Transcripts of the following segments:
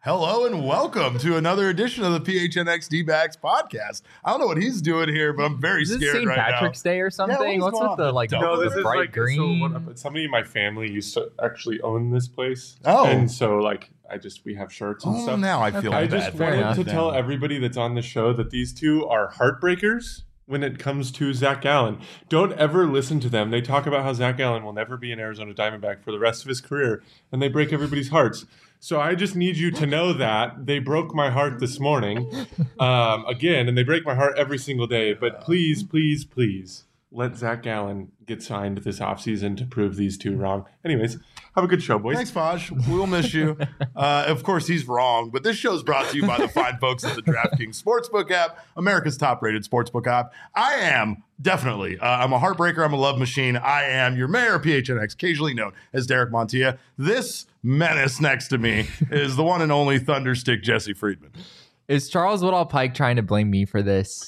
Hello and welcome to another edition of the PHNX D-backs podcast. I don't know what he's doing here, but I'm very scared St. right Patrick's now. Day or something? what's What's going with the on? like No, the this is bright green? Somebody in my family used to actually own this place. Oh. And so we have shirts and Oh, stuff. now I feel I bad. just Fair wanted enough. to tell everybody that's on the show that these two are heartbreakers when it comes to Zach Allen. Don't ever listen to them. They talk about how Zach Allen will never be an Arizona Diamondback for the rest of his career, and they break everybody's hearts. So I just need you to know that they broke my heart this morning again, and they break my heart every single day. But please, please, please let Zach Allen get signed this offseason to prove these two wrong. Anyways, have a good show, boys. Thanks, Fosh. We'll miss you. Of course, he's wrong, but this show is brought to you by the fine folks at the DraftKings Sportsbook app, America's top-rated sportsbook app. I am definitely, I'm a heartbreaker. I'm a love machine. I am your mayor, PHNX, occasionally known as Derek Montilla. This menace next to me is the one and only Thunderstick Jesse Friedman. Is Charles Woodall Pike trying to blame me for this?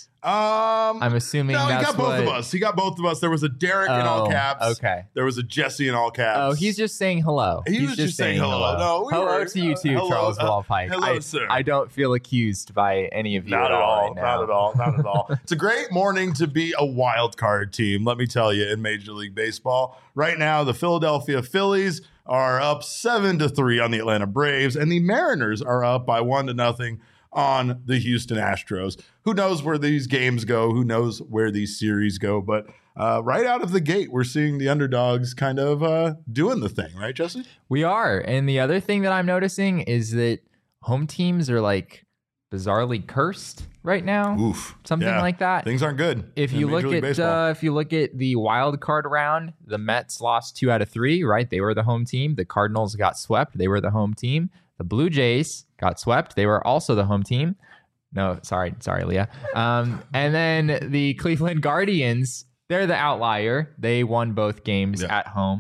I'm assuming no, that's he got both of us. He got both of us. There was a Derek in all caps. Okay. There was a Jesse in all caps. Oh, he's just saying hello. He was just saying hello. No, hello to you too, hello, Charles Woodall Pike. hello, sir. I don't feel accused by any of you Not at all. right now. Not at all. Not at all. It's a great morning to be a wild card team, let me tell you, in Major League Baseball. Right now, the Philadelphia Phillies are up 7-3 on the Atlanta Braves, and the Mariners are up by 1-0 on the Houston Astros. Who knows where these games go? Who knows where these series go? But right out of the gate, we're seeing the underdogs kind of doing the thing, right, Jesse? We are. And the other thing that I'm noticing is that home teams are like bizarrely cursed right now. Oof. Something Yeah. like that. Things aren't good. If in you Major look League Baseball. at the wild card round, the Mets lost 2 out of 3, right? They were the home team. The Cardinals got swept. They were the home team. The Blue Jays got swept. They were also the home team. No, sorry, Leah. And then the Cleveland Guardians, they're the outlier. They won both games at home.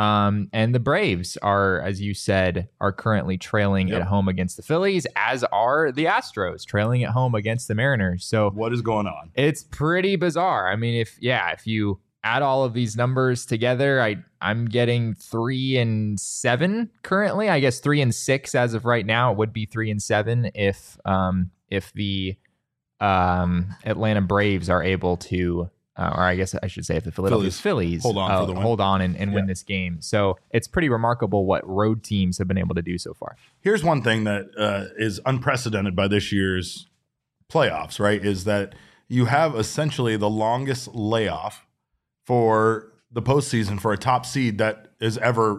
And the Braves are, as you said, are currently trailing at home against the Phillies, as are the Astros trailing at home against the Mariners. So what is going on? It's pretty bizarre. I mean, if you add all of these numbers together, I'm getting 3-7 currently. I guess 3-6 as of right now. It would be 3-7 if the Atlanta Braves are able to, or I guess I should say if the Philadelphia Phillies hold on for the win. Hold on and win this game. So it's pretty remarkable what road teams have been able to do so far. Here's one thing that is unprecedented by this year's playoffs, right? Is that you have essentially the longest layoff for the postseason for a top seed that there's ever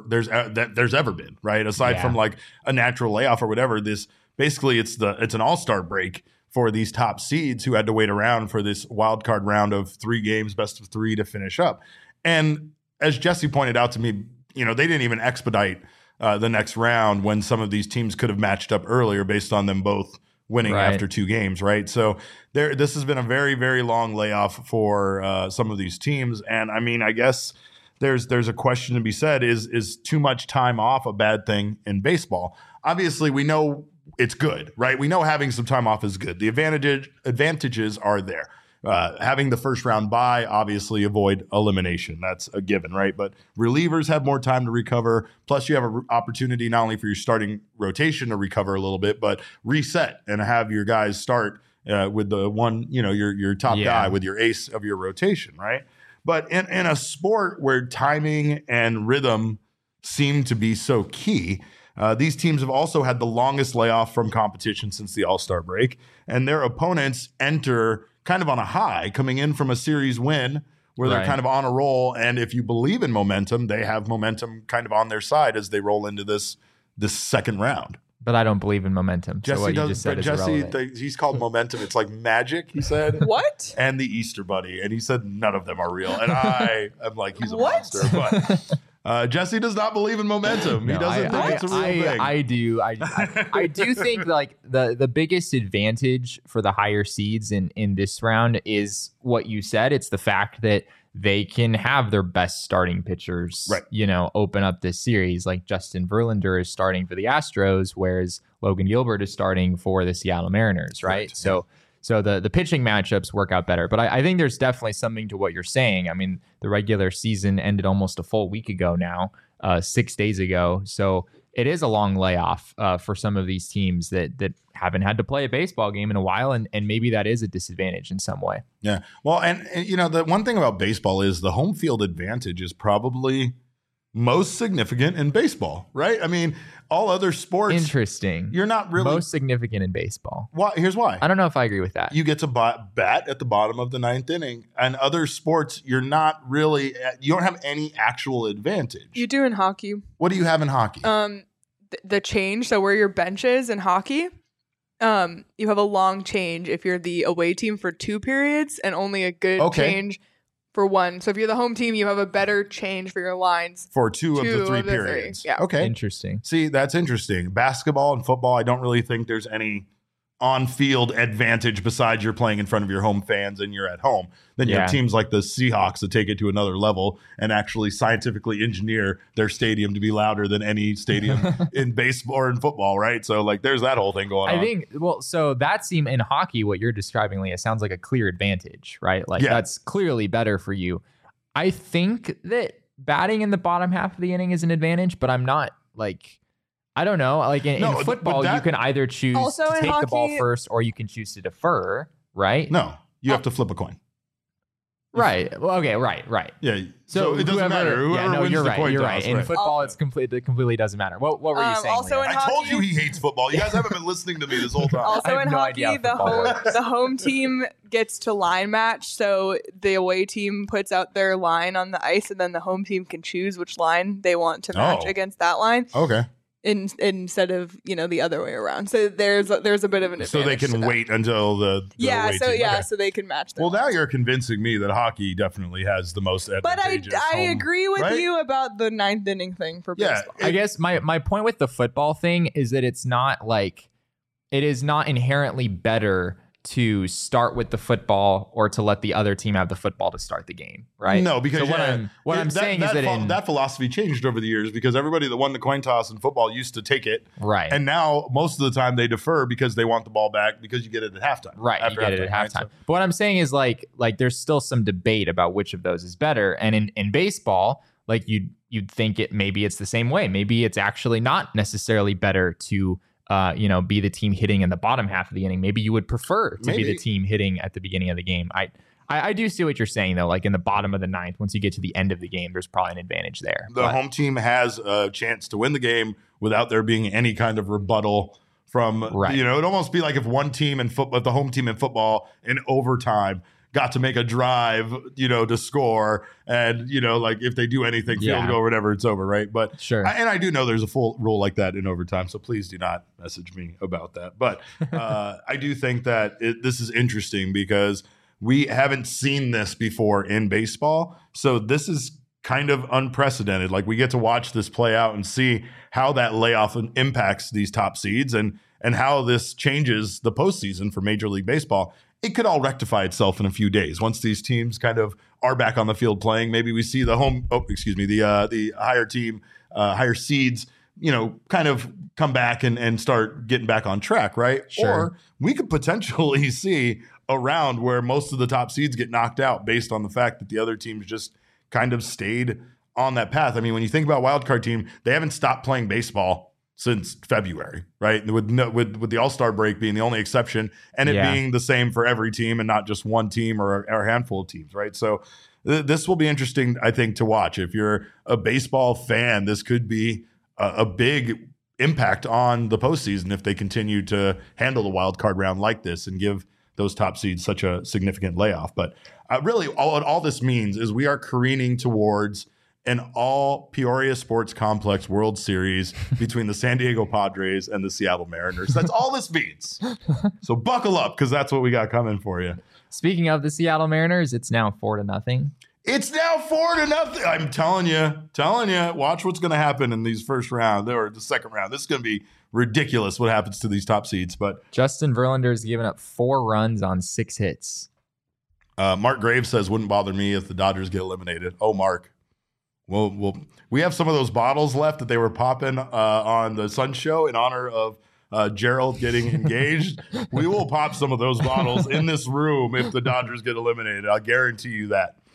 been, right? Aside from like a natural layoff or whatever, this basically it's an all-star break for these top seeds who had to wait around for this wild card round of 3 games, best of 3 to finish up. And as Jesse pointed out to me, they didn't even expedite the next round when some of these teams could have matched up earlier based on them both winning after 2 games, right? So this has been a very, very long layoff for some of these teams. And I mean, I guess there's a question to be said, is too much time off a bad thing in baseball? Obviously, we know it's good, right? We know having some time off is good. The advantages are there. Having the first round bye, obviously avoid elimination. That's a given, right? But relievers have more time to recover. Plus, you have an opportunity not only for your starting rotation to recover a little bit, but reset and have your guys start with the one, your top guy with your ace of your rotation, right? But in a sport where timing and rhythm seem to be so key, these teams have also had the longest layoff from competition since the All-Star break, and their opponents enter kind of on a high, coming in from a series win where they're kind of on a roll. And if you believe in momentum, they have momentum kind of on their side as they roll into this second round. But I don't believe in momentum. Jesse so what you just said is irrelevant. He's called momentum. It's like magic, he said. What? And the Easter Bunny. And he said none of them are real. And I'm like, he's a monster. But Jesse does not believe in momentum. He doesn't think it's a real thing. I do. I do think like the biggest advantage for the higher seeds in this round is what you said. It's the fact that they can have their best starting pitchers, open up this series. Like Justin Verlander is starting for the Astros, whereas Logan Gilbert is starting for the Seattle Mariners, right? So the pitching matchups work out better. But I think there's definitely something to what you're saying. I mean, the regular season ended almost a full week ago now, 6 days ago. So it is a long layoff for some of these teams that haven't had to play a baseball game in a while, and maybe that is a disadvantage in some way. Yeah. Well, and the one thing about baseball is the home field advantage is probably most significant in baseball, right? I mean, all other sports. Interesting. You're not really most significant in baseball. Why? Here's why. I don't know if I agree with that. You get to bat at the bottom of the ninth inning, and other sports, you're not really. You don't have any actual advantage. You do in hockey. What do you have in hockey? The change. So where your bench is in hockey, you have a long change if you're the away team for 2 periods, and only a good change for 1. So if you're the home team, you have a better change for your lines for two of the 3 periods. Yeah. Okay. Interesting. See, that's interesting. Basketball and football, I don't really think there's any on-field advantage besides you're playing in front of your home fans and you're at home. Then you have teams like the Seahawks that take it to another level and actually scientifically engineer their stadium to be louder than any stadium in baseball or in football, right? So like there's that whole thing going on. I think, so that seems in hockey, what you're describing, Leah, sounds like a clear advantage, right? Like that's clearly better for you. I think that batting in the bottom half of the inning is an advantage, but I'm not like... I don't know. Like in football, you can either choose to take the ball first or you can choose to defer, right? No, you have to flip a coin. Right. Well, okay. Right. Yeah. So it doesn't matter. Whoever wins you're the right. coin You're toss, right. In football, it completely doesn't matter. What were you saying? Also in I hockey, told you he hates football. You guys haven't been listening to me this whole time. Also in hockey, the home team gets to line match. So the away team puts out their line on the ice, and then the home team can choose which line they want to match against that line. Okay. Instead of the other way around, so there's a bit of an advantage. So they can wait until the away team. So they can match. Well, now you're convincing me that hockey definitely has the most advantageous. But I agree with you about the ninth inning thing for baseball. I guess my point with the football thing is that it is not inherently better to start with the football or to let the other team have the football to start the game, right? No, because what I'm saying is that philosophy changed over the years because everybody that won the coin toss in football used to take it, right? And now most of the time they defer because they want the ball back because you get it at halftime, right? You get it at halftime. Right? But what I'm saying is like there's still some debate about which of those is better, and in baseball, like you'd think maybe it's the same way. Maybe it's actually not necessarily better to be the team hitting in the bottom half of the inning. Maybe you would prefer to be the team hitting at the beginning of the game. I do see what you're saying, though. Like in the bottom of the ninth, once you get to the end of the game, there's probably an advantage there. The home team has a chance to win the game without there being any kind of rebuttal from, it'd almost be like if one team in football, the home team in football in overtime got to make a drive, to score. And, like if they do anything, field goal or whatever, it's over, right? But sure. And I do know there's a full rule like that in overtime. So please do not message me about that. But I do think that this is interesting because we haven't seen this before in baseball. So this is kind of unprecedented. Like we get to watch this play out and see how that layoff impacts these top seeds and how this changes the postseason for Major League Baseball. It could all rectify itself in a few days once these teams kind of are back on the field playing. Maybe we see the higher team, higher seeds, kind of come back and start getting back on track, right? Sure. Or we could potentially see a round where most of the top seeds get knocked out based on the fact that the other teams just kind of stayed on that path. I mean, when you think about wildcard team, they haven't stopped playing baseball since February, right? With the All-Star break being the only exception, and it being the same for every team and not just one team or a handful of teams, right? So this will be interesting, I think, to watch. If you're a baseball fan, this could be a big impact on the postseason if they continue to handle the wild card round like this and give those top seeds such a significant layoff. But really, all this means is we are careening towards an all Peoria Sports Complex World Series between the San Diego Padres and the Seattle Mariners. That's all this means. So buckle up because that's what we got coming for you. Speaking of the Seattle Mariners, it's now 4-0. It's now 4-0. I'm telling you, watch what's going to happen in these first round or the second round. This is going to be ridiculous what happens to these top seeds. But Justin Verlander's given up 4 runs on 6 hits. Mark Graves says, wouldn't bother me if the Dodgers get eliminated. Oh, Mark. Well, we have some of those bottles left that they were popping on the Sun Show in honor of Gerald getting engaged. We will pop some of those bottles in this room if the Dodgers get eliminated. I'll guarantee you that.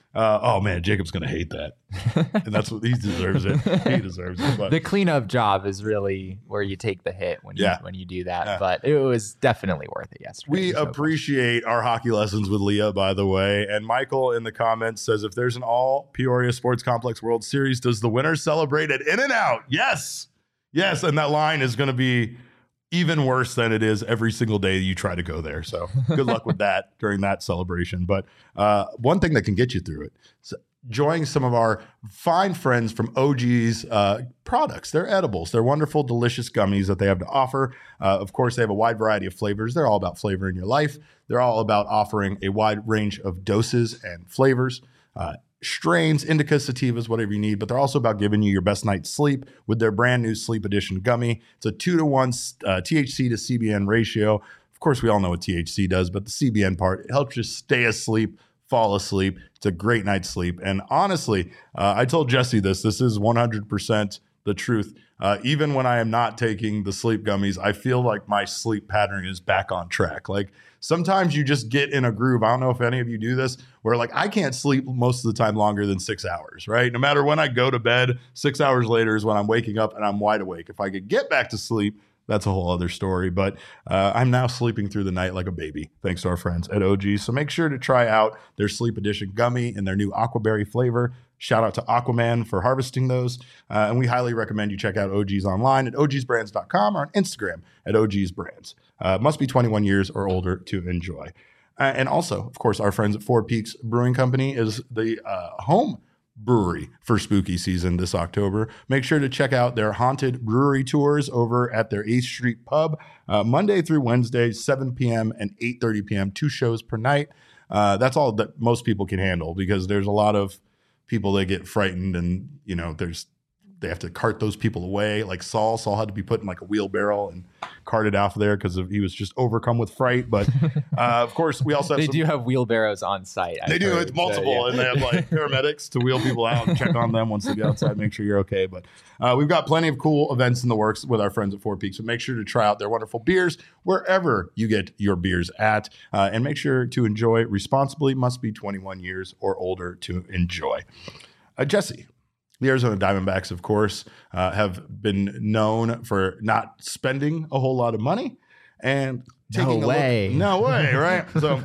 Oh man, Jacob's gonna hate that, and that's what he deserves it. He deserves it. But the cleanup job is really where you take the hit when you do that. Yeah. But it was definitely worth it yesterday. We appreciate our hockey lessons with Leah, by the way. And Michael in the comments says, if there's an all Peoria Sports Complex World Series, does the winner celebrate at In-N-Out? Yes, and that line is going to be even worse than it is every single day you try to go there. So good luck with that during that celebration. But one thing that can get you through it, so enjoying some of our fine friends from OG's products. They're edibles. They're wonderful, delicious gummies that they have to offer. Of course, they have a wide variety of flavors. They're all about flavor in your life. They're all about offering a wide range of doses and flavors. Strains, indicas, sativas, whatever you need, but they're also about giving you your best night's sleep with their brand new Sleep Edition gummy. It's a 2-to-1 THC to CBN ratio. Of course, we all know what THC does, but the CBN part, it helps you stay asleep, fall asleep. It's a great night's sleep. And honestly, I told Jesse this is 100% the truth. Even when I am not taking the sleep gummies, I feel like my sleep pattern is back on track. Like sometimes you just get in a groove. I don't know if any of you do this, where like I can't sleep most of the time longer than 6 hours, right? No matter when I go to bed, 6 hours later is when I'm waking up and I'm wide awake. If I could get back to sleep, that's a whole other story. But I'm now sleeping through the night like a baby, thanks to our friends at OG. So make sure to try out their Sleep Edition gummy and their new aquaberry flavor. Shout out to Aquaman for harvesting those. And we highly recommend you check out OG's online at ogsbrands.com or on Instagram at ogsbrands. Must be 21 years or older to enjoy. And also, of course, our friends at Four Peaks Brewing Company is the home brewery for spooky season this October. Make sure to check out their haunted brewery tours over at their 8th Street Pub, Monday through Wednesday, 7 p.m. and 8:30 p.m., 2 shows per night. That's all that most people can handle because there's a lot of people that get frightened and, you know, they have to cart those people away. Like Saul had to be put in like a wheelbarrow and carted out of there because he was just overcome with fright. But of course, we also have do have wheelbarrows on site. They do. It's multiple, and they have like paramedics to wheel people out and check on them once they get outside, make sure you're okay. But we've got plenty of cool events in the works with our friends at Four Peaks. So make sure to try out their wonderful beers wherever you get your beers at, and make sure to enjoy responsibly. Must be 21 years or older to enjoy. Jesse. The Arizona Diamondbacks, of course, have been known for not spending a whole lot of money and taking No way, right? So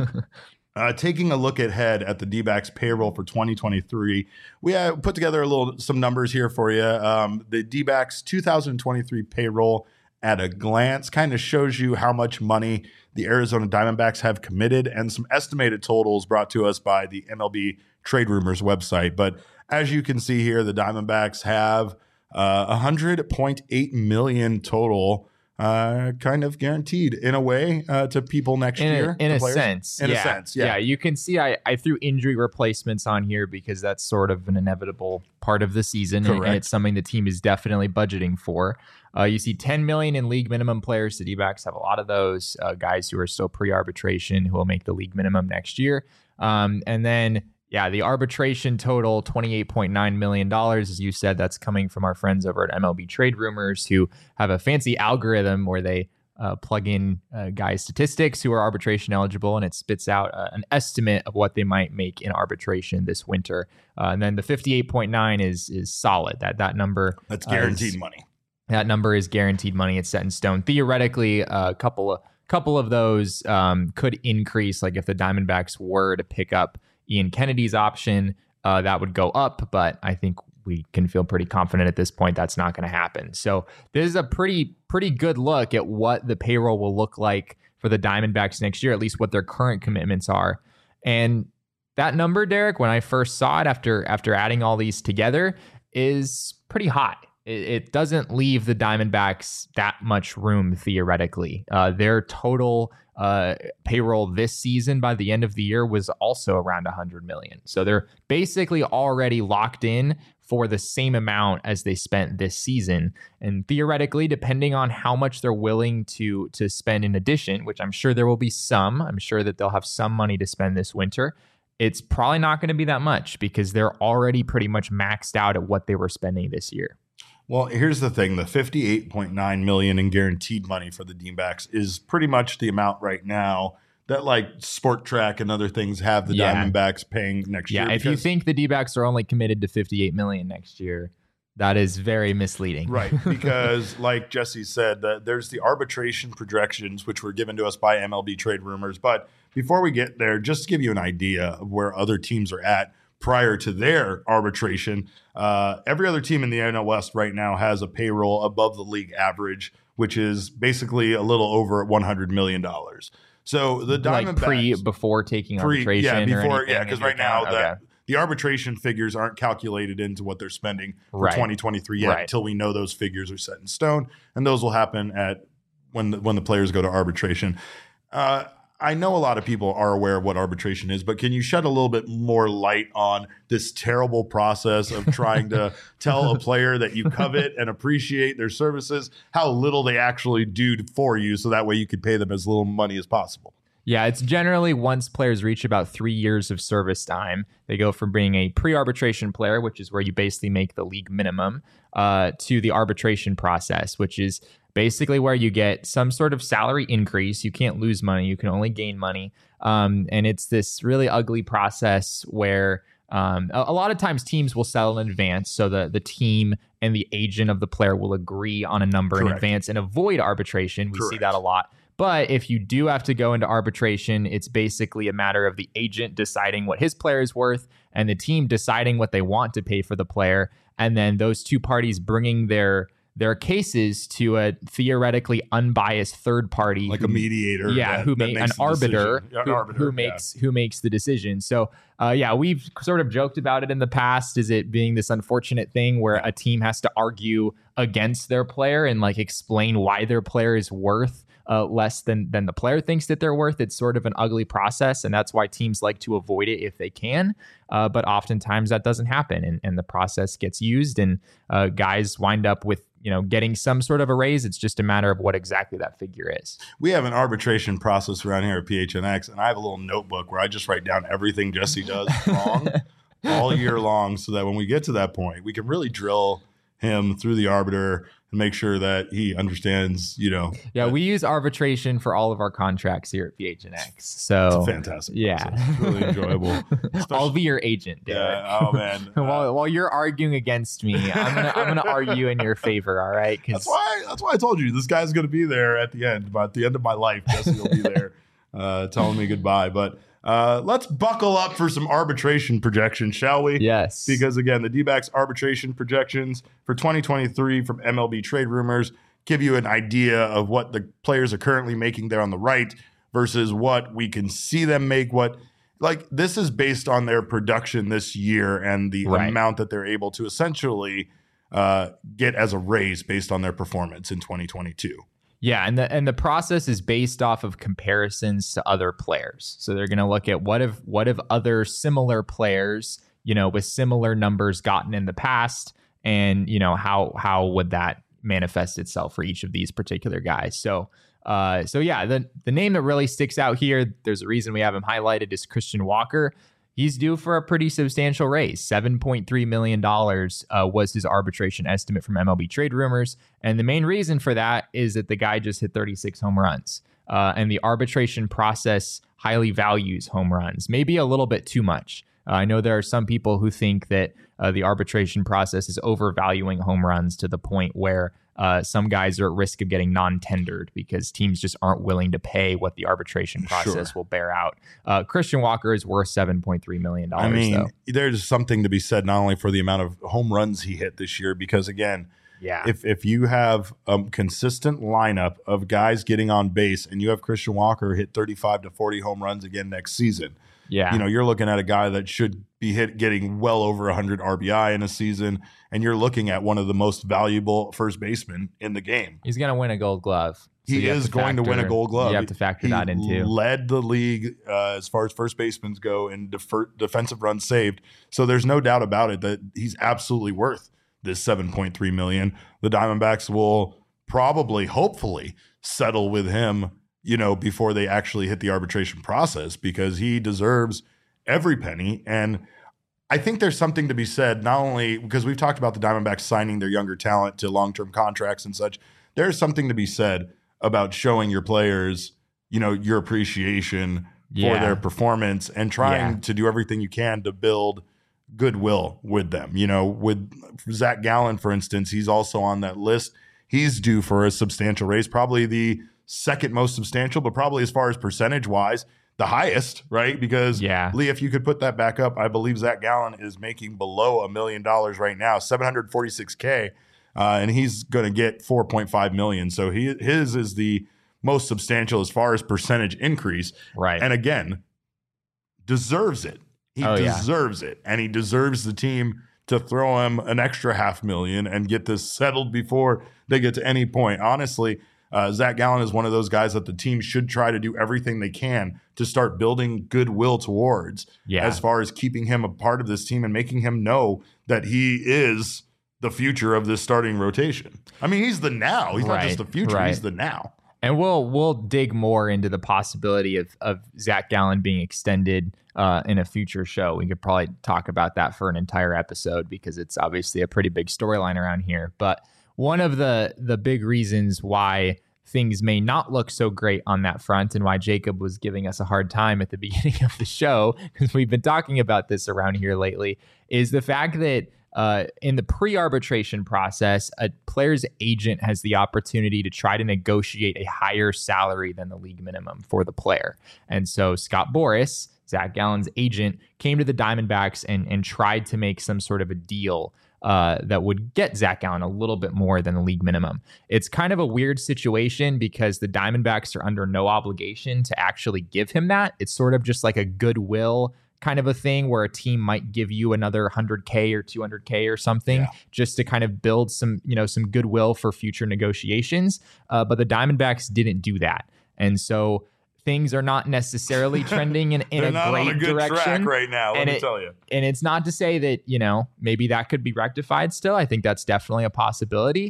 taking a look ahead at the D-backs payroll for 2023, we have put together some numbers here for you. The D-backs 2023 payroll at a glance kind of shows you how much money the Arizona Diamondbacks have committed and some estimated totals brought to us by the MLB Trade Rumors website. But as you can see here, the Diamondbacks have $100.8 million total, kind of guaranteed in a way to people next year. In a sense, yeah. You can see I threw injury replacements on here because that's sort of an inevitable part of the season, and it's something the team is definitely budgeting for. You see $10 million in league minimum players. The D-backs have a lot of those guys who are still pre-arbitration who will make the league minimum next year, and then. Yeah, the arbitration total, $28.9 million. As you said, that's coming from our friends over at MLB Trade Rumors who have a fancy algorithm where they plug in guys' statistics who are arbitration eligible, and it spits out an estimate of what they might make in arbitration this winter. And then the 58.9 is solid. That number. That's guaranteed money. That number is guaranteed money. It's set in stone. Theoretically, a couple of those could increase. Like if the Diamondbacks were to pick up Ian Kennedy's option, that would go up, but I think we can feel pretty confident at this point that's not going to happen. So this is a pretty good look at what the payroll will look like for the Diamondbacks next year, at least what their current commitments are. And that number, Derek, when I first saw it after adding all these together, is pretty high. It doesn't leave the Diamondbacks that much room theoretically. Their total payroll this season by the end of the year was also around $100 million. So they're basically already locked in for the same amount as they spent this season. And theoretically, depending on how much they're willing to spend in addition, which I'm sure there will be some, I'm sure that they'll have some money to spend this winter. It's probably not going to be that much because they're already pretty much maxed out at what they were spending this year. Well, here's the thing. The $58.9 million in guaranteed money for the D-backs is pretty much the amount right now that like Sport Track and other things have the Diamondbacks paying next year. Yeah, if you think the D-backs are only committed to $58 million next year, that is very misleading. Right, because like Jesse said, there's the arbitration projections, which were given to us by MLB Trade Rumors. But before we get there, just to give you an idea of where other teams are at prior to their arbitration, every other team in the NL West right now has a payroll above the league average, which is basically a little over $100 million. So the Diamondbacks, like before taking arbitration, because right now the arbitration figures aren't calculated into what they're spending for 2023 yet until we know those figures are set in stone, and those will happen at when the players go to arbitration. I know a lot of people are aware of what arbitration is, but can you shed a little bit more light on this terrible process of trying to tell a player that you covet and appreciate their services, how little they actually do for you, so that way you could pay them as little money as possible? Yeah, it's generally once players reach about 3 years of service time, they go from being a pre-arbitration player, which is where you basically make the league minimum, to the arbitration process, which is basically where you get some sort of salary increase. You can't lose money. You can only gain money. And it's this really ugly process where a lot of times teams will settle in advance. So the team and the agent of the player will agree on a number in advance and avoid arbitration. We see that a lot. But if you do have to go into arbitration, it's basically a matter of the agent deciding what his player is worth and the team deciding what they want to pay for the player. And then those two parties bringing their cases to a theoretically unbiased third party, like a mediator, who makes an arbiter, who makes the decision. So, we've sort of joked about it in the past. Is it being this unfortunate thing where a team has to argue against their player and like explain why their player is worth less than the player thinks that they're worth? It's sort of an ugly process, and that's why teams like to avoid it if they can. But oftentimes that doesn't happen, and the process gets used, and guys wind up with getting some sort of a raise. It's just a matter of what exactly that figure is. We have an arbitration process around here at PHNX, and I have a little notebook where I just write down everything Jesse does wrong all year long, so that when we get to that point, we can really drill him through the arbiter and make sure that he understands, Yeah, we use arbitration for all of our contracts here at PHNX. So it's a fantastic process. It's really enjoyable. I'll be your agent, Derek. Yeah, oh man. While you're arguing against me, I'm gonna argue in your favor, all right? That's why I told you this guy's gonna be there at the end. But at the end of my life, Jesse will be there telling me goodbye. But let's buckle up for some arbitration projections, shall we? Yes. Because again, the D-backs arbitration projections for 2023 from MLB Trade Rumors give you an idea of what the players are currently making there on the right versus what we can see them make. This is based on their production this year and the amount that they're able to essentially get as a raise based on their performance in 2022. Yeah, and the process is based off of comparisons to other players. So they're going to look at what have other similar players, with similar numbers gotten in the past, and how would that manifest itself for each of these particular guys. So the name that really sticks out here, there's a reason we have him highlighted, is Christian Walker. He's due for a pretty substantial raise. $7.3 million was his arbitration estimate from MLB Trade Rumors. And the main reason for that is that the guy just hit 36 home runs. And the arbitration process highly values home runs, maybe a little bit too much. I know there are some people who think that the arbitration process is overvaluing home runs to the point where some guys are at risk of getting non-tendered because teams just aren't willing to pay what the arbitration process will bear out. Christian Walker is worth $7.3 million. I mean, there's something to be said not only for the amount of home runs he hit this year, because again, if you have a consistent lineup of guys getting on base and you have Christian Walker hit 35 to 40 home runs again next season, you're looking at a guy that should be getting well over 100 RBI in a season, and you're looking at one of the most valuable first basemen in the game. He's going to win a Gold Glove. So he is going to win a Gold Glove. You have to factor that in too. He led the league as far as first basemen go in defensive runs saved. So there's no doubt about it that he's absolutely worth this $7.3 million. The Diamondbacks will probably, hopefully, settle with him, before they actually hit the arbitration process, because he deserves every penny. And I think there's something to be said, not only because we've talked about the Diamondbacks signing their younger talent to long-term contracts and such. There's something to be said about showing your players, your appreciation for their performance and trying to do everything you can to build goodwill with them. With Zach Gallen, for instance, he's also on that list. He's due for a substantial raise, probably the second most substantial, but probably as far as percentage wise, the highest, right? Because Lee, if you could put that back up, I believe Zach Gallen is making below $1 million right now, $746K, and he's going to get $4.5 million. So his is the most substantial as far as percentage increase. Right. And again, deserves it. He deserves it. And he deserves the team to throw him an extra $500,000 and get this settled before they get to any point. Honestly, Zach Gallen is one of those guys that the team should try to do everything they can to start building goodwill towards as far as keeping him a part of this team and making him know that he is the future of this starting rotation. I mean, he's the now. He's not just the future. He's the now. And we'll dig more into the possibility of Zach Gallen being extended in a future show. We could probably talk about that for an entire episode because it's obviously a pretty big storyline around here. But one of the big reasons why things may not look so great on that front and why Jacob was giving us a hard time at the beginning of the show, because we've been talking about this around here lately, is the fact that in the pre-arbitration process, a player's agent has the opportunity to try to negotiate a higher salary than the league minimum for the player. And so Scott Boras, Zach Gallen's agent, came to the Diamondbacks and tried to make some sort of a deal that would get Zach Gallen a little bit more than the league minimum. It's kind of a weird situation because the Diamondbacks are under no obligation to actually give him that. It's sort of just like a goodwill kind of a thing where a team might give you another $100K or $200K or something just to kind of build some goodwill for future negotiations. But the Diamondbacks didn't do that. And so things are not necessarily trending in a great direction track right now, let me tell you. And it's not to say that, maybe that could be rectified still. I think that's definitely a possibility.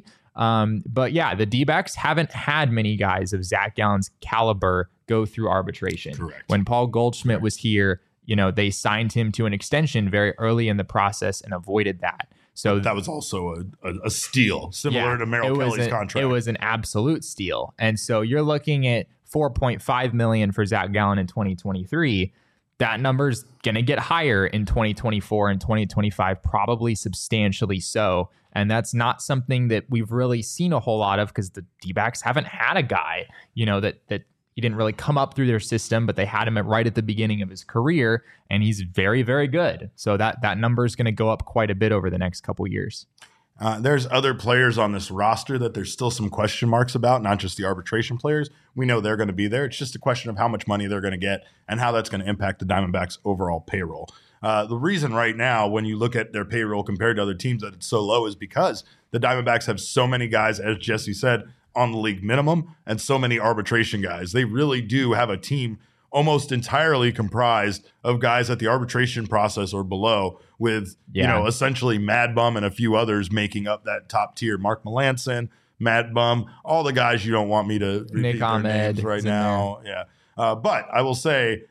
But yeah, the D-backs haven't had many guys of Zach Gallen's caliber go through arbitration. Correct. When Paul Goldschmidt was here, they signed him to an extension very early in the process and avoided that. So that was also a steal, similar to Merrill Kelly's contract. It was an absolute steal. And so you're looking at $4.5 million for Zach Gallen in 2023. That number's going to get higher in 2024 and 2025, probably substantially so. And that's not something that we've really seen a whole lot of because the D-backs haven't had a guy, that he didn't really come up through their system, but they had him right at the beginning of his career, and he's very, very good. So that number is going to go up quite a bit over the next couple years. There's other players on this roster that there's still some question marks about, not just the arbitration players. We know they're going to be there. It's just a question of how much money they're going to get and how that's going to impact the Diamondbacks' overall payroll. The reason right now, when you look at their payroll compared to other teams, that it's so low is because the Diamondbacks have so many guys, as Jesse said, on the league minimum and so many arbitration guys. They really do have a team almost entirely comprised of guys at the arbitration process or below with, essentially Mad Bum and a few others making up that top tier. Mark Melanson, Mad Bum, all the guys you don't want me to repeat Nick their Ahmed names right now. Yeah. But I will say,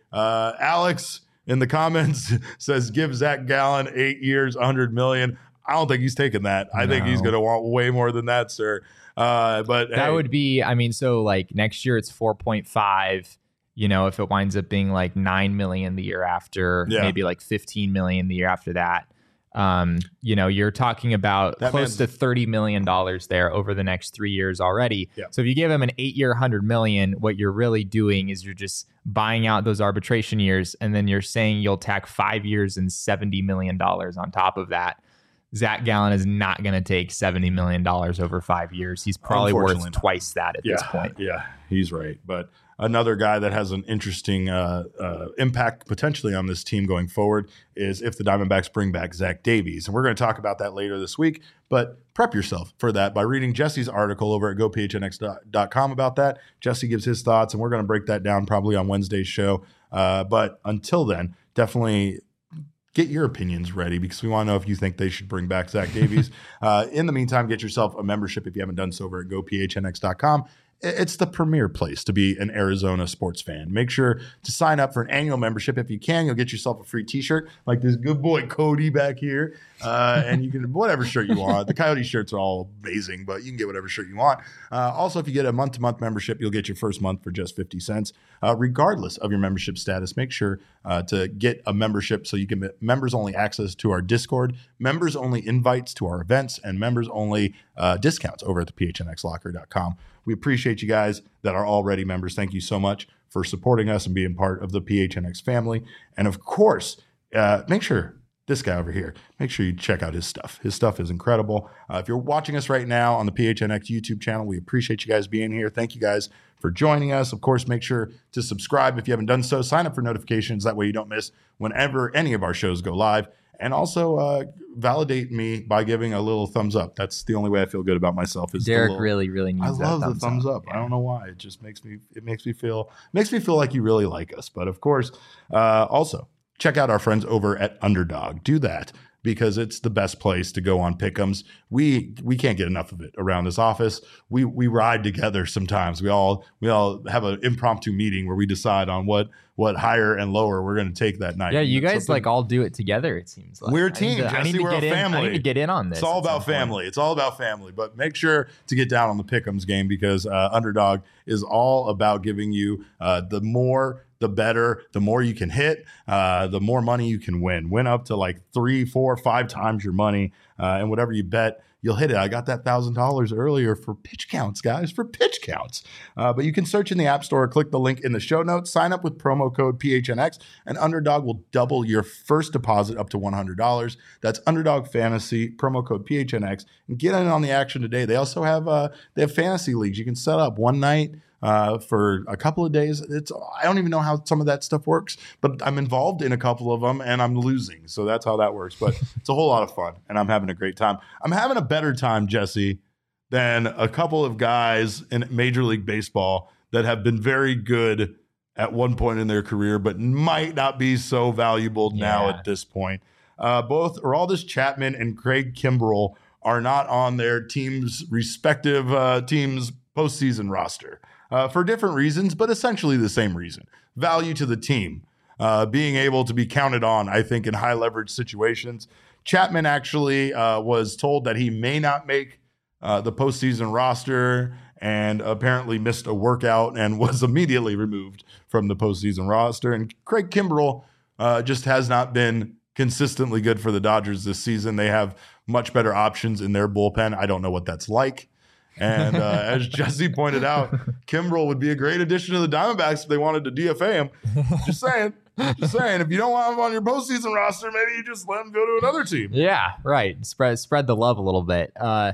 Alex in the comments says, give Zach Gallen 8 years, $100 million. I don't think he's taking that. I think he's going to want way more than that, sir. But that would be, so like next year it's 4.5, if it winds up being like 9 million the year after, maybe like 15 million the year after that. You're talking about close to $30 million there over the next 3 years already. Yeah. So if you give him an 8-year, $100 million, what you're really doing is you're just buying out those arbitration years. And then you're saying you'll tack 5 years and $70 million on top of that. Zach Gallen is not going to take $70 million over 5 years. He's probably worth twice that at this point. Yeah, he's right. But another guy that has an interesting impact potentially on this team going forward is if the Diamondbacks bring back Zach Davies. And we're going to talk about that later this week. But prep yourself for that by reading Jesse's article over at gophnx.com about that. Jesse gives his thoughts, and we're going to break that down probably on Wednesday's show. But until then, definitely get your opinions ready because we want to know if you think they should bring back Zach Davies. In the meantime, get yourself a membership if you haven't done so over at gophnx.com. it's the premier place to be an Arizona sports fan. Make sure to sign up for an annual membership. If you can, you'll get yourself a free t-shirt like this good boy Cody back here. And you can, whatever shirt you want. The Coyote shirts are all amazing, but you can get whatever shirt you want. Also, if you get a month-to-month membership, you'll get your first month for just 50 cents. Regardless of your membership status, make sure to get a membership so you can get members-only access to our Discord, members-only invites to our events, and members-only discounts over at the phnxlocker.com. We appreciate you guys that are already members. Thank you so much for supporting us and being part of the PHNX family. And of course, make sure this guy over here, make sure you check out his stuff. His stuff is incredible. If you're watching us right now on the PHNX YouTube channel, we appreciate you guys being here. Thank you guys for joining us. Of course, make sure to subscribe if you haven't done so. Sign up for notifications. That way you don't miss whenever any of our shows go live. And also validate me by giving a little thumbs up. That's the only way I feel good about myself. Is Derek really needs I love that the thumbs up. Yeah. I don't know why. It just makes me feel like you really like us. But of course, also check out our friends over at Underdog. Do that because it's the best place to go on pick'ems. We can't get enough of it around this office. We ride together sometimes. We all have an impromptu meeting where we decide on what higher and lower we're going to take that night. Yeah, you guys like all do it together, it seems like. We're a team, Jesse. We're a family. I need to get in on this. It's all about family. It's all about family. But make sure to get down on the pick'ems game because Underdog is all about giving you the more, the better, the more you can hit, the more money you can win. Win up to like 3, 4, 5 times your money. And whatever you bet, you'll hit it. I got that $1,000 earlier for pitch counts, guys, for pitch counts. But you can search in the App Store, click the link in the show notes, sign up with promo code PHNX, and Underdog will double your first deposit up to $100. That's Underdog Fantasy, promo code PHNX, and get in on the action today. They also have fantasy leagues you can set up one night for a couple of days. I don't even know how some of that stuff works, but I'm involved in a couple of them and I'm losing. So that's how that works. But it's a whole lot of fun and I'm having a great time. I'm having a better time, Jesse, than a couple of guys in Major League Baseball that have been very good at one point in their career, but might not be so valuable now at this point. Both Aroldis Chapman and Craig Kimbrell are not on their team's respective team's postseason roster. For different reasons, but essentially the same reason. Value to the team. Being able to be counted on, I think, in high leverage situations. Chapman actually was told that he may not make the postseason roster and apparently missed a workout and was immediately removed from the postseason roster. And Craig Kimbrell just has not been consistently good for the Dodgers this season. They have much better options in their bullpen. I don't know what that's like. And as Jesse pointed out, Kimbrell would be a great addition to the Diamondbacks if they wanted to DFA him. Just saying. If you don't want him on your postseason roster, maybe you just let him go to another team. Yeah, right. Spread the love a little bit.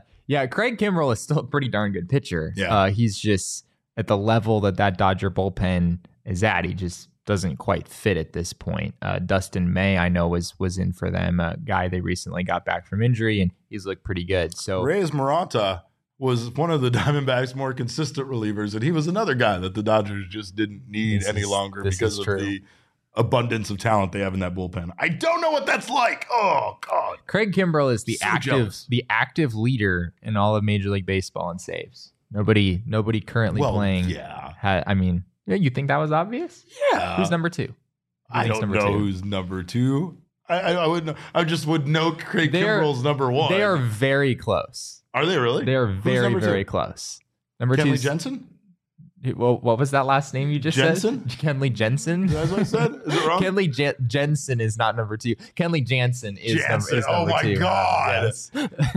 Craig Kimbrell is still a pretty darn good pitcher. Yeah. He's just at the level that Dodger bullpen is at. He just doesn't quite fit at this point. Dustin May, I know, was in for them, a guy they recently got back from injury, and he's looked pretty good. So Reyes Maranta was one of the Diamondbacks' more consistent relievers, and he was another guy that the Dodgers just didn't need any longer because of the abundance of talent they have in that bullpen. I don't know what that's like. Oh, God. Craig Kimbrell is the active leader in all of Major League Baseball in saves. Nobody currently playing. Yeah. You think that was obvious? Yeah. Who's number 2? I don't know who's number 2. I wouldn't. I just would know Craig Kimbrell's number 1. They are very close. Are they really? They are very, very close. Number 2 Kenley Jensen? Well, what was that last name you just Jensen? said? Kenley Jensen? That's what I said? Is it wrong? Kenley Jensen is not number 2. Kenley Jansen is number 2. Oh, my God. Yes.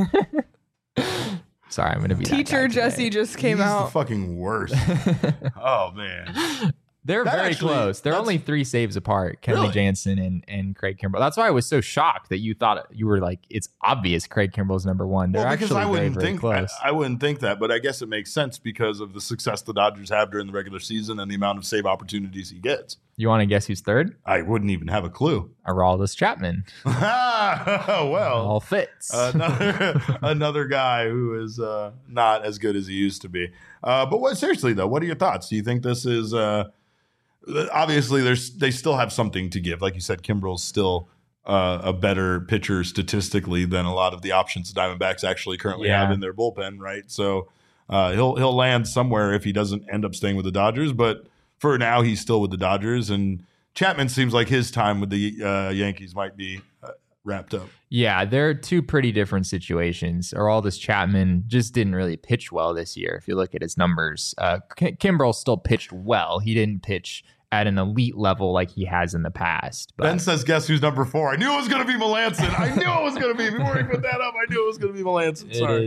Sorry, I'm going to be Teacher Jesse just came He's out. the fucking worst. Oh, man. They're very close. They're only 3 saves apart, Kenley Jansen and Craig Kimbrell. That's why I was so shocked that you thought you were like, it's obvious Craig Kimbrell's number 1. They're actually very close. I wouldn't think that, but I guess it makes sense because of the success the Dodgers have during the regular season and the amount of save opportunities he gets. You want to guess who's 3rd? I wouldn't even have a clue. Aroldis Chapman. Well, all fits. Another guy who is not as good as he used to be. But seriously though, what are your thoughts? Do you think this is? Obviously, they still have something to give. Like you said, Kimbrell's still a better pitcher statistically than a lot of the options the Diamondbacks actually currently have in their bullpen, right? So He'll land somewhere if he doesn't end up staying with the Dodgers. But for now, he's still with the Dodgers, and Chapman seems like his time with the Yankees might be wrapped up. Yeah, they're two pretty different situations. Aroldis Chapman just didn't really pitch well this year. If you look at his numbers, Kimbrel still pitched well. He didn't pitch at an elite level like he has in the past. But Ben says, guess who's number 4? I knew it was going to be Melancon. I knew it was going to be. Before he put that up, I knew it was going to be Melancon. Sorry.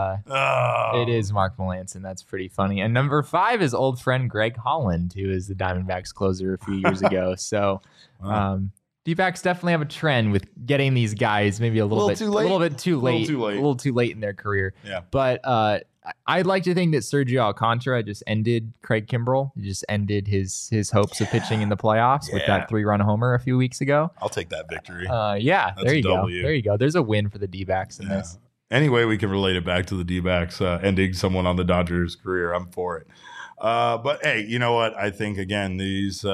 It is Mark Melancon. That's pretty funny. And number 5 is old friend Greg Holland, who is the Diamondbacks closer a few years ago. So D-backs definitely have a trend with getting these guys maybe a little bit too late in their career. Yeah. But I'd like to think that Sergio Alcantara just ended Craig Kimbrel. He just ended his hopes of pitching in the playoffs with that 3-run homer a few weeks ago. I'll take that victory. There you go. There you go. There's a win for the D-backs in this. Anyway, we can relate it back to the D-backs ending someone on the Dodgers' career. I'm for it. But hey, you know what? I think again these.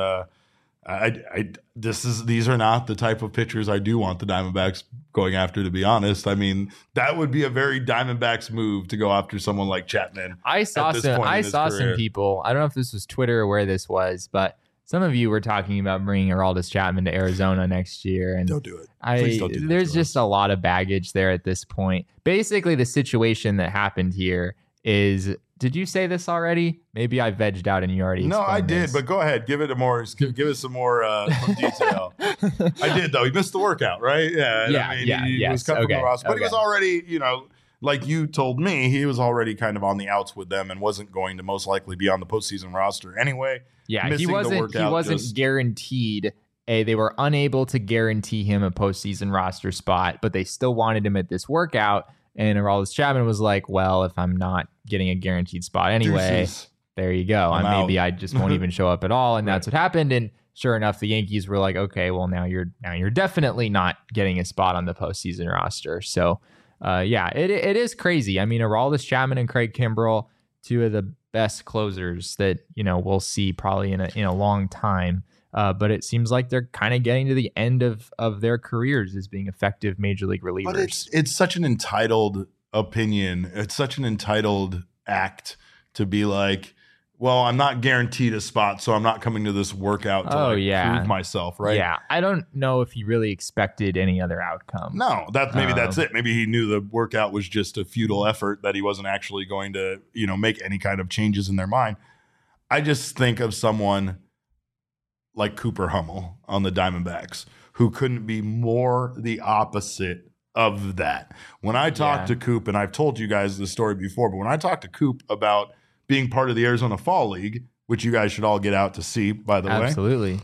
These are not the type of pitchers I do want the Diamondbacks going after, to be honest. I mean, that would be a very Diamondbacks move to go after someone like Chapman. I saw some people, I don't know if this was Twitter or where this was, but some of you were talking about bringing Aroldis Chapman to Arizona next year. And don't do it. Please don't do that. There's just a lot of baggage there at this point. Basically, the situation that happened here is, did you say this already? Maybe I vegged out and you already explained No, I did, this. but go ahead. Give it some more detail. I did, though. He missed the workout, right? Yeah. He was cut from the roster. But he was already, like you told me, he was already kind of on the outs with them and wasn't going to most likely be on the postseason roster anyway. Yeah, he wasn't guaranteed. They were unable to guarantee him a postseason roster spot, but they still wanted him at this workout. And Aroldis Chapman was like, well, if I'm not getting a guaranteed spot anyway, there you go. Maybe I just won't even show up at all. And that's what happened. And sure enough, the Yankees were like, okay, well, now you're definitely not getting a spot on the postseason roster. So, it is crazy. I mean, Aroldis Chapman and Craig Kimbrel, two of the best closers that, we'll see probably in a long time. But it seems like they're kind of getting to the end of their careers as being effective major league relievers. But it's such an entitled opinion. It's such an entitled act to be like, well, I'm not guaranteed a spot, so I'm not coming to this workout to prove myself, right? Yeah, I don't know if he really expected any other outcome. No, that's it. Maybe he knew the workout was just a futile effort, that he wasn't actually going to, make any kind of changes in their mind. I just think of someone like Cooper Hummel on the Diamondbacks, who couldn't be more the opposite of that. When I talked to Coop, and I've told you guys this story before, but when I talked to Coop about being part of the Arizona Fall League, which you guys should all get out to see, by the way. Absolutely.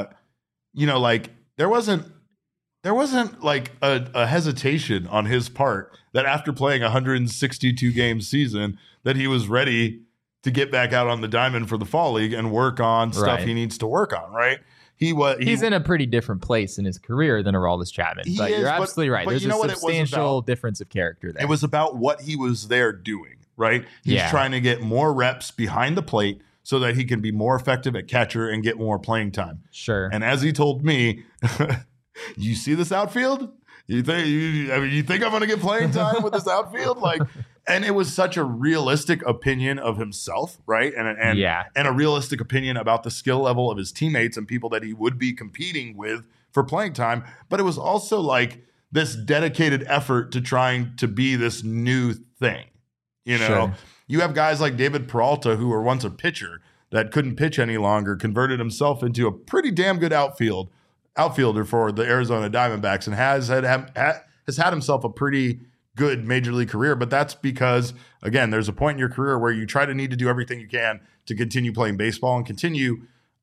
Like there wasn't like a hesitation on his part that after playing 162 game season that he was ready to get back out on the diamond for the Fall League and work on stuff he needs to work on, right? He's in a pretty different place in his career than Aroldis Chapman. But you're absolutely right. There's a substantial difference of character there. It was about what he was there doing, right? He's trying to get more reps behind the plate so that he can be more effective at catcher and get more playing time. Sure. And as he told me, you see this outfield? You think I'm going to get playing time with this outfield? And it was such a realistic opinion of himself, right? And a realistic opinion about the skill level of his teammates and people that he would be competing with for playing time. But it was also like this dedicated effort to trying to be this new thing. Sure. You have guys like David Peralta, who were once a pitcher that couldn't pitch any longer, converted himself into a pretty damn good outfielder for the Arizona Diamondbacks, and has had himself a pretty good major league career. But that's because, again, there's a point in your career where you need to do everything you can to continue playing baseball and continue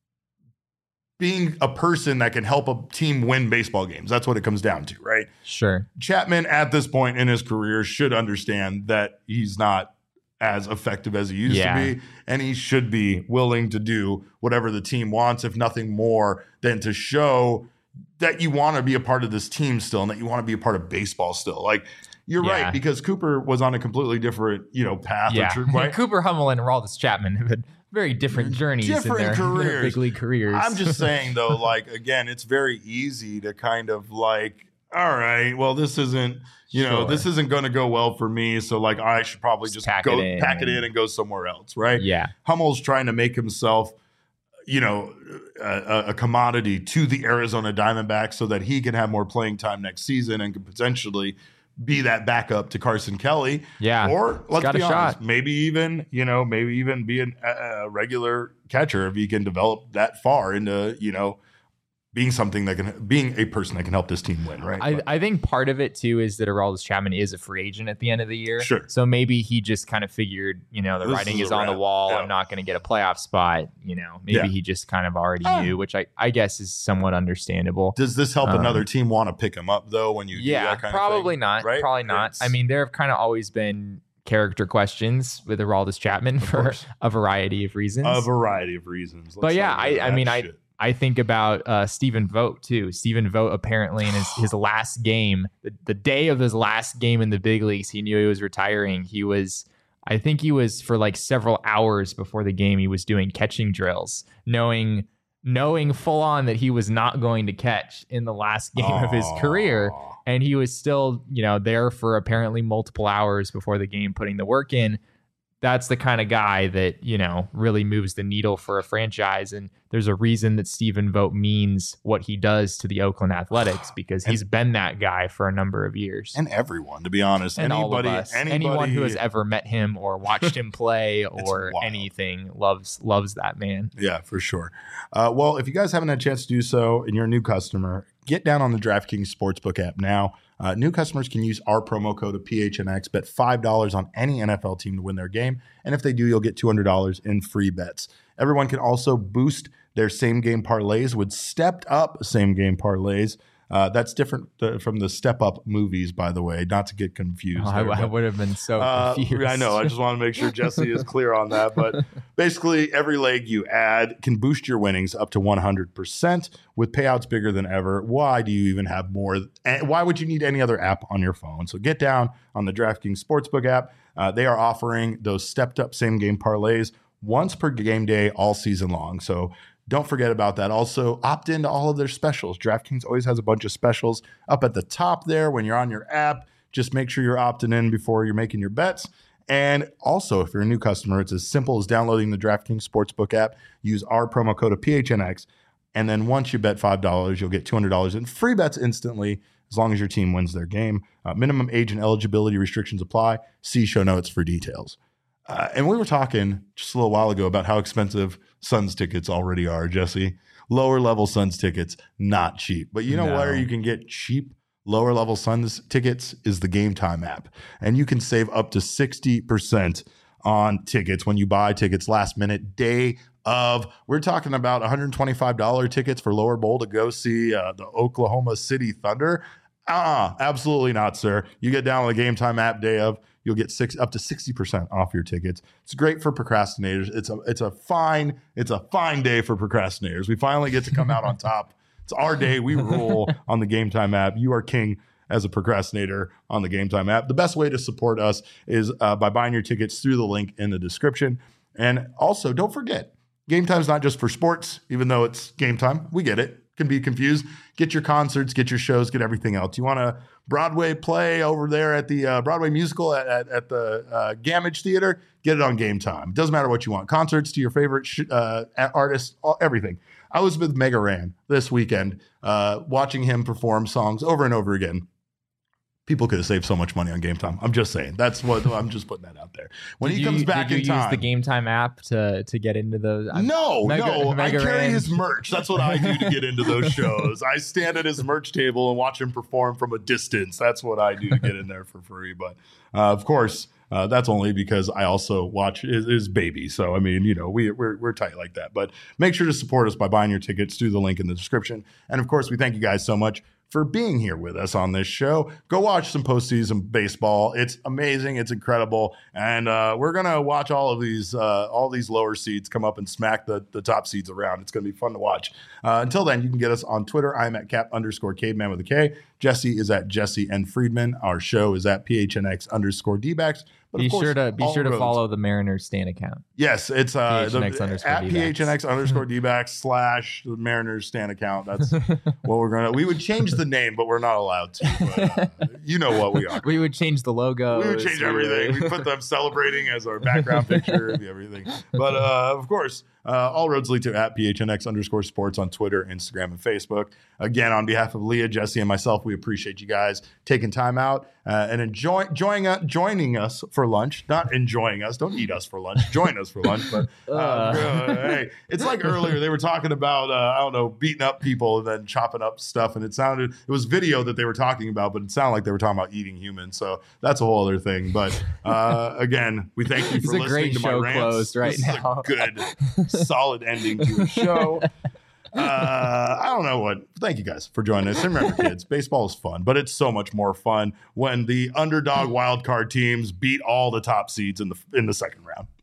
being a person that can help a team win baseball games. That's what it comes down to, right? Sure. Chapman at this point in his career should understand that he's not as effective as he used to be, and he should be willing to do whatever the team wants, if nothing more than to show that you want to be a part of this team still and that you want to be a part of baseball still. Like, you're right, because Cooper was on a completely different, path. Yeah. Right? Cooper Hummel and Aroldis Chapman have had very different journeys in their big league careers. I'm just saying, though, again, it's very easy to kind of all right, well, this isn't, this isn't going to go well for me. So like, I should probably just pack it in and go somewhere else. Right. Yeah. Hummel's trying to make himself, a commodity to the Arizona Diamondbacks so that he can have more playing time next season and could potentially be that backup to Carson Kelly. Yeah. Or let's be honest, maybe even be a regular catcher if he can develop that far into, being being a person that can help this team win, right? I think part of it too is that Aroldis Chapman is a free agent at the end of the year. Sure. So maybe he just kind of figured, the writing is on the wall. Yeah. I'm not going to get a playoff spot. Maybe he just kind of already knew, which I guess is somewhat understandable. Does this help another team want to pick him up though? When you do that kind probably of thing? Not. Right? Probably not. I mean, there have kind of always been character questions with Aroldis Chapman for a variety of reasons. But yeah, I think about Stephen Vogt too. Stephen Vogt apparently in his last game, the day of his last game in the big leagues, he knew he was retiring. I think he was for like several hours before the game, he was doing catching drills, knowing full on that he was not going to catch in the last game of his career. And he was still, there for apparently multiple hours before the game, putting the work in. That's the kind of guy that, really moves the needle for a franchise. And there's a reason that Stephen Vogt means what he does to the Oakland Athletics, because he's been that guy for a number of years. And everyone, to be honest, and anyone who has ever met him or watched him play or anything loves that man. Yeah, for sure. Well, if you guys haven't had a chance to do so and you're a new customer, get down on the DraftKings Sportsbook app now. New customers can use our promo code of PHNX, bet $5 on any NFL team to win their game. And if they do, you'll get $200 in free bets. Everyone can also boost their same-game parlays with stepped-up same-game parlays. That's different from the Step Up movies, by the way, not to get confused. I would have been so confused. I know. I just want to make sure Jesse is clear on that. But basically, every leg you add can boost your winnings up to 100% with payouts bigger than ever. Why do you even have more? Why would you need any other app on your phone? So get down on the DraftKings Sportsbook app. They are offering those stepped-up same-game parlays once per game day all season long. So don't forget about that. Also, opt into all of their specials. DraftKings always has a bunch of specials up at the top there when you're on your app. Just make sure you're opting in before you're making your bets. And also, if you're a new customer, it's as simple as downloading the DraftKings Sportsbook app. Use our promo code of PHNX. And then once you bet $5, you'll get $200 in free bets instantly as long as your team wins their game. Minimum age and eligibility restrictions apply. See show notes for details. And we were talking just a little while ago about how expensive Suns tickets already are, Jesse. Lower level Suns tickets, not cheap. But you know where you can get cheap lower level Suns tickets is the Game Time app. And you can save up to 60% on tickets when you buy tickets last minute, day of. We're talking about $125 tickets for Lower Bowl to go see the Oklahoma City Thunder. Absolutely not, sir. You get down on the Game Time app day of, you'll get up to 60% off your tickets. It's great for procrastinators. It's a fine day for procrastinators. We finally get to come out on top. It's our day. We rule on the Game Time app. You are king as a procrastinator on the Game Time app. The best way to support us is by buying your tickets through the link in the description. And also, don't forget, Game Time is not just for sports, even though it's Game Time. We get it. Can be confused. Get your concerts, get your shows, get everything else. You want a Broadway play over there at the Broadway musical at the Gamage Theater? Get it on Game Time. Doesn't matter what you want. Concerts to your favorite artists, everything. I was with Mega Ran this weekend, watching him perform songs over and over again. People could have saved so much money on Game Time. I'm just saying. That's what I'm just putting that out there. When he comes back in time, did you use the Game Time app to get into those? No. I carry his merch. That's what I do to get into those shows. I stand at his merch table and watch him perform from a distance. That's what I do to get in there for free. But of course, that's only because I also watch his baby. So I mean, we're tight like that. But make sure to support us by buying your tickets through the link in the description. And of course, we thank you guys so much for being here with us on this show. Go watch some postseason baseball. It's amazing. It's incredible. And we're going to watch all these lower seeds come up and smack the top seeds around. It's going to be fun to watch. Until then, you can get us on Twitter. I'm at Cap_Caveman with a K. Jesse is at Jesse N. Friedman. Our show is at PHNX_DBacks. But Be of course, sure to all roads. follow the Mariners Stan account. Yes, it's PHNX underscore at D-backs. PHNX underscore D-backs / the Mariners Stan account. That's what we're going to. We would change the name, but we're not allowed to. But, you know what we are. We would change the logo. We would change everything. We put them celebrating as our background picture, everything. But of course, all roads lead to at PHNX underscore sports on Twitter, Instagram, and Facebook. Again, on behalf of Leah, Jesse, and myself, we appreciate you guys taking time out and joining us for lunch. Not enjoying us. Don't eat us for lunch. Join us for lunch. But hey, it's like earlier they were talking about I don't know, beating up people and then chopping up stuff, and it was video that they were talking about, but it sounded like they were talking about eating humans. So that's a whole other thing. But again, we thank you for listening to my rants. Closed right this now. Is a good, solid ending to a show. I don't know what. Thank you guys for joining us. And remember, kids, baseball is fun, but it's so much more fun when the underdog wild card teams beat all the top seeds in the second round.